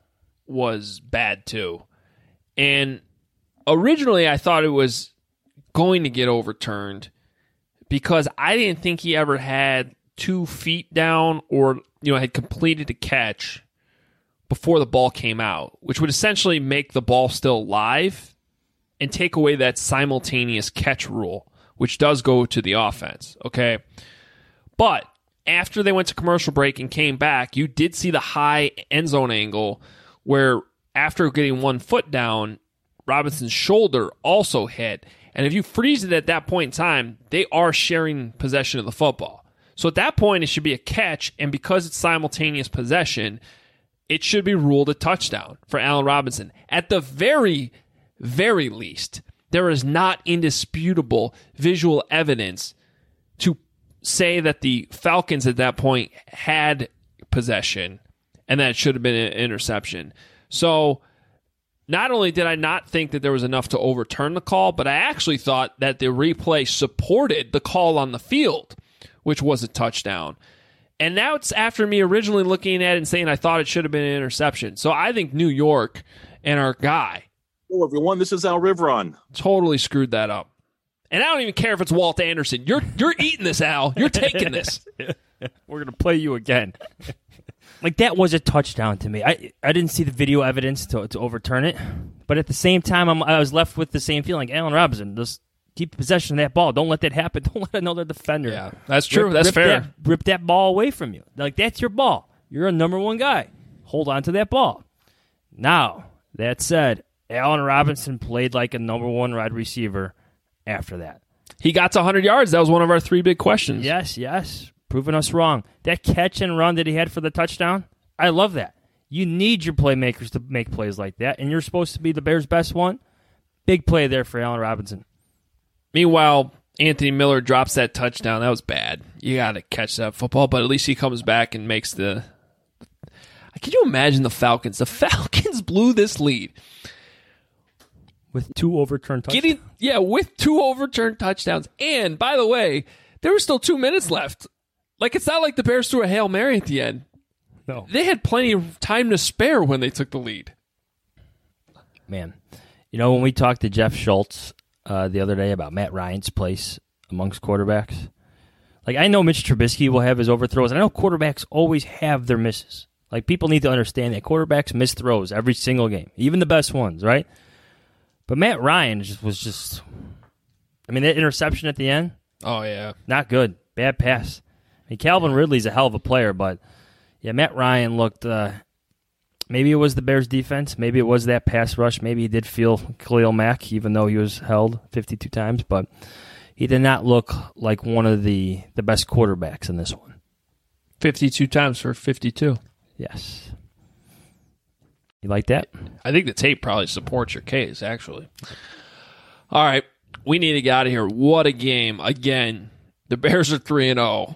was bad too, and originally I thought it was going to get overturned because I didn't think he ever had 2 feet down or had completed a catch before the ball came out, which would essentially make the ball still live and take away that simultaneous catch rule, which does go to the offense, okay? But after they went to commercial break and came back, you did see the high end zone angle where after getting 1 foot down, Robinson's shoulder also hit. And if you freeze it at that point in time, they are sharing possession of the football. So at that point, it should be a catch, and because it's simultaneous possession, it should be ruled a touchdown for Allen Robinson. At the very, very least, there is not indisputable visual evidence to say that the Falcons at that point had possession and that it should have been an interception. So not only did I not think that there was enough to overturn the call, but I actually thought that the replay supported the call on the field, which was a touchdown. And now it's after me originally looking at it and saying I thought it should have been an interception. So I think New York and our guy. Hello, everyone. This is Al Riveron. Totally screwed that up. And I don't even care if it's Walt Anderson. You're eating this, Al. You're taking this. We're going to play you again. Like, that was a touchdown to me. I didn't see the video evidence to overturn it. But at the same time, I was left with the same feeling. Like, Allen Robinson, just keep possession of that ball. Don't let that happen. Don't let another defender. Yeah, that's true. That's fair. Rip that ball away from you. Like, that's your ball. You're a number 1 guy. Hold on to that ball. Now, that said, Allen Robinson played like a number 1 wide receiver after that. He got to 100 yards. That was one of our 3 big questions. Yes. Proving us wrong. That catch and run that he had for the touchdown, I love that. You need your playmakers to make plays like that, and you're supposed to be the Bears' best one. Big play there for Allen Robinson. Meanwhile, Anthony Miller drops that touchdown. That was bad. You got to catch that football, but at least he comes back and makes the... Can you imagine the Falcons? The Falcons blew this lead. With 2 overturned touchdowns. With 2 overturned touchdowns. And, by the way, there were still 2 minutes left. Like, it's not like the Bears threw a Hail Mary at the end. No. They had plenty of time to spare when they took the lead. Man, when we talked to Jeff Schultz the other day about Matt Ryan's place amongst quarterbacks, like, I know Mitch Trubisky will have his overthrows, and I know quarterbacks always have their misses. Like, people need to understand that quarterbacks miss throws every single game, even the best ones, right? But Matt Ryan was just, that interception at the end. Oh, yeah. Not good. Bad pass. Calvin Ridley's a hell of a player, but yeah, Matt Ryan looked, maybe it was the Bears' defense. Maybe it was that pass rush. Maybe he did feel Khalil Mack, even though he was held 52 times, but he did not look like one of the best quarterbacks in this one. 52 times for 52. Yes. You like that? I think the tape probably supports your case, actually. All right. We need to get out of here. What a game. Again, the Bears are 3-0.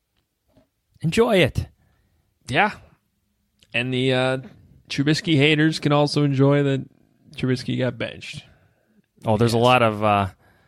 Enjoy it. Yeah. And the Trubisky haters can also enjoy that Trubisky got benched. Oh, there's a lot of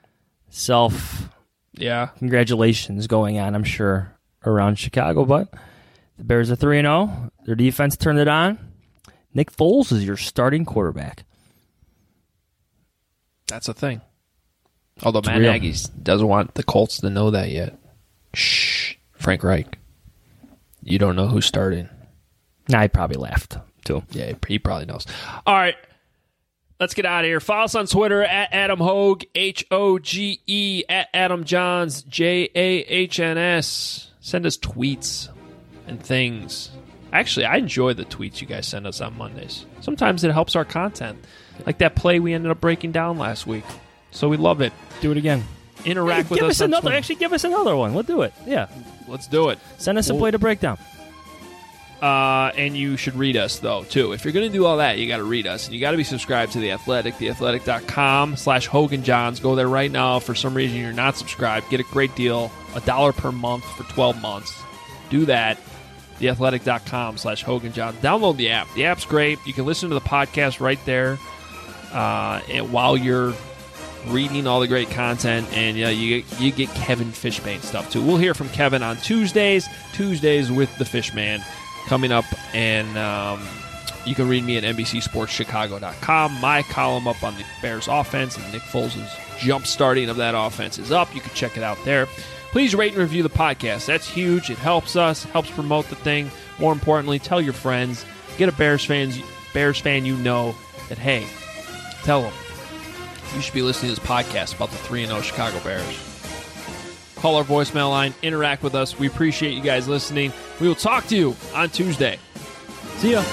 congratulations going on, I'm sure, around Chicago. But the Bears are 3-0. Their defense turned it on. Nick Foles is your starting quarterback. That's a thing. Although Matt Nagy doesn't want the Colts to know that yet. Shh. Frank Reich. You don't know who's starting. Nah, he probably left, too. Yeah, he probably knows. All right. Let's get out of here. Follow us on Twitter at Adam Hoge, Hoge, at Adam Johns, Jahns. Send us tweets and things. Actually, I enjoy the tweets you guys send us on Mondays. Sometimes it helps our content. Like that play we ended up breaking down last week. So we love it. Do it again. Interact with give us. Give us another one. We'll do it. Yeah. Let's do it. Send us a play to break down. And you should read us, though, too. If you're going to do all that, you got to read us. And you got to be subscribed to The Athletic, theathletic.com/HoganJohns. Go there right now. If for some reason you're not subscribed, get a great deal, $1 per month for 12 months. Do that. theathletic.com/HoganJohns. Download the app. The app's great. You can listen to the podcast right there and while you're reading all the great content, and you get Kevin Fishbane stuff, too. We'll hear from Kevin on Tuesdays with the Fishman coming up, and you can read me at NBCSportsChicago.com. My column up on the Bears offense and Nick Foles' jump starting of that offense is up. You can check it out there. Please rate and review the podcast. That's huge. It helps us, helps promote the thing. More importantly, tell your friends. Get a Bears fan you know that, hey, tell them you should be listening to this podcast about the 3-0 Chicago Bears. Call our voicemail line. Interact with us. We appreciate you guys listening. We will talk to you on Tuesday. See ya.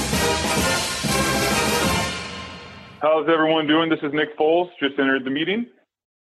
How's everyone doing? This is Nick Foles. Just entered the meeting.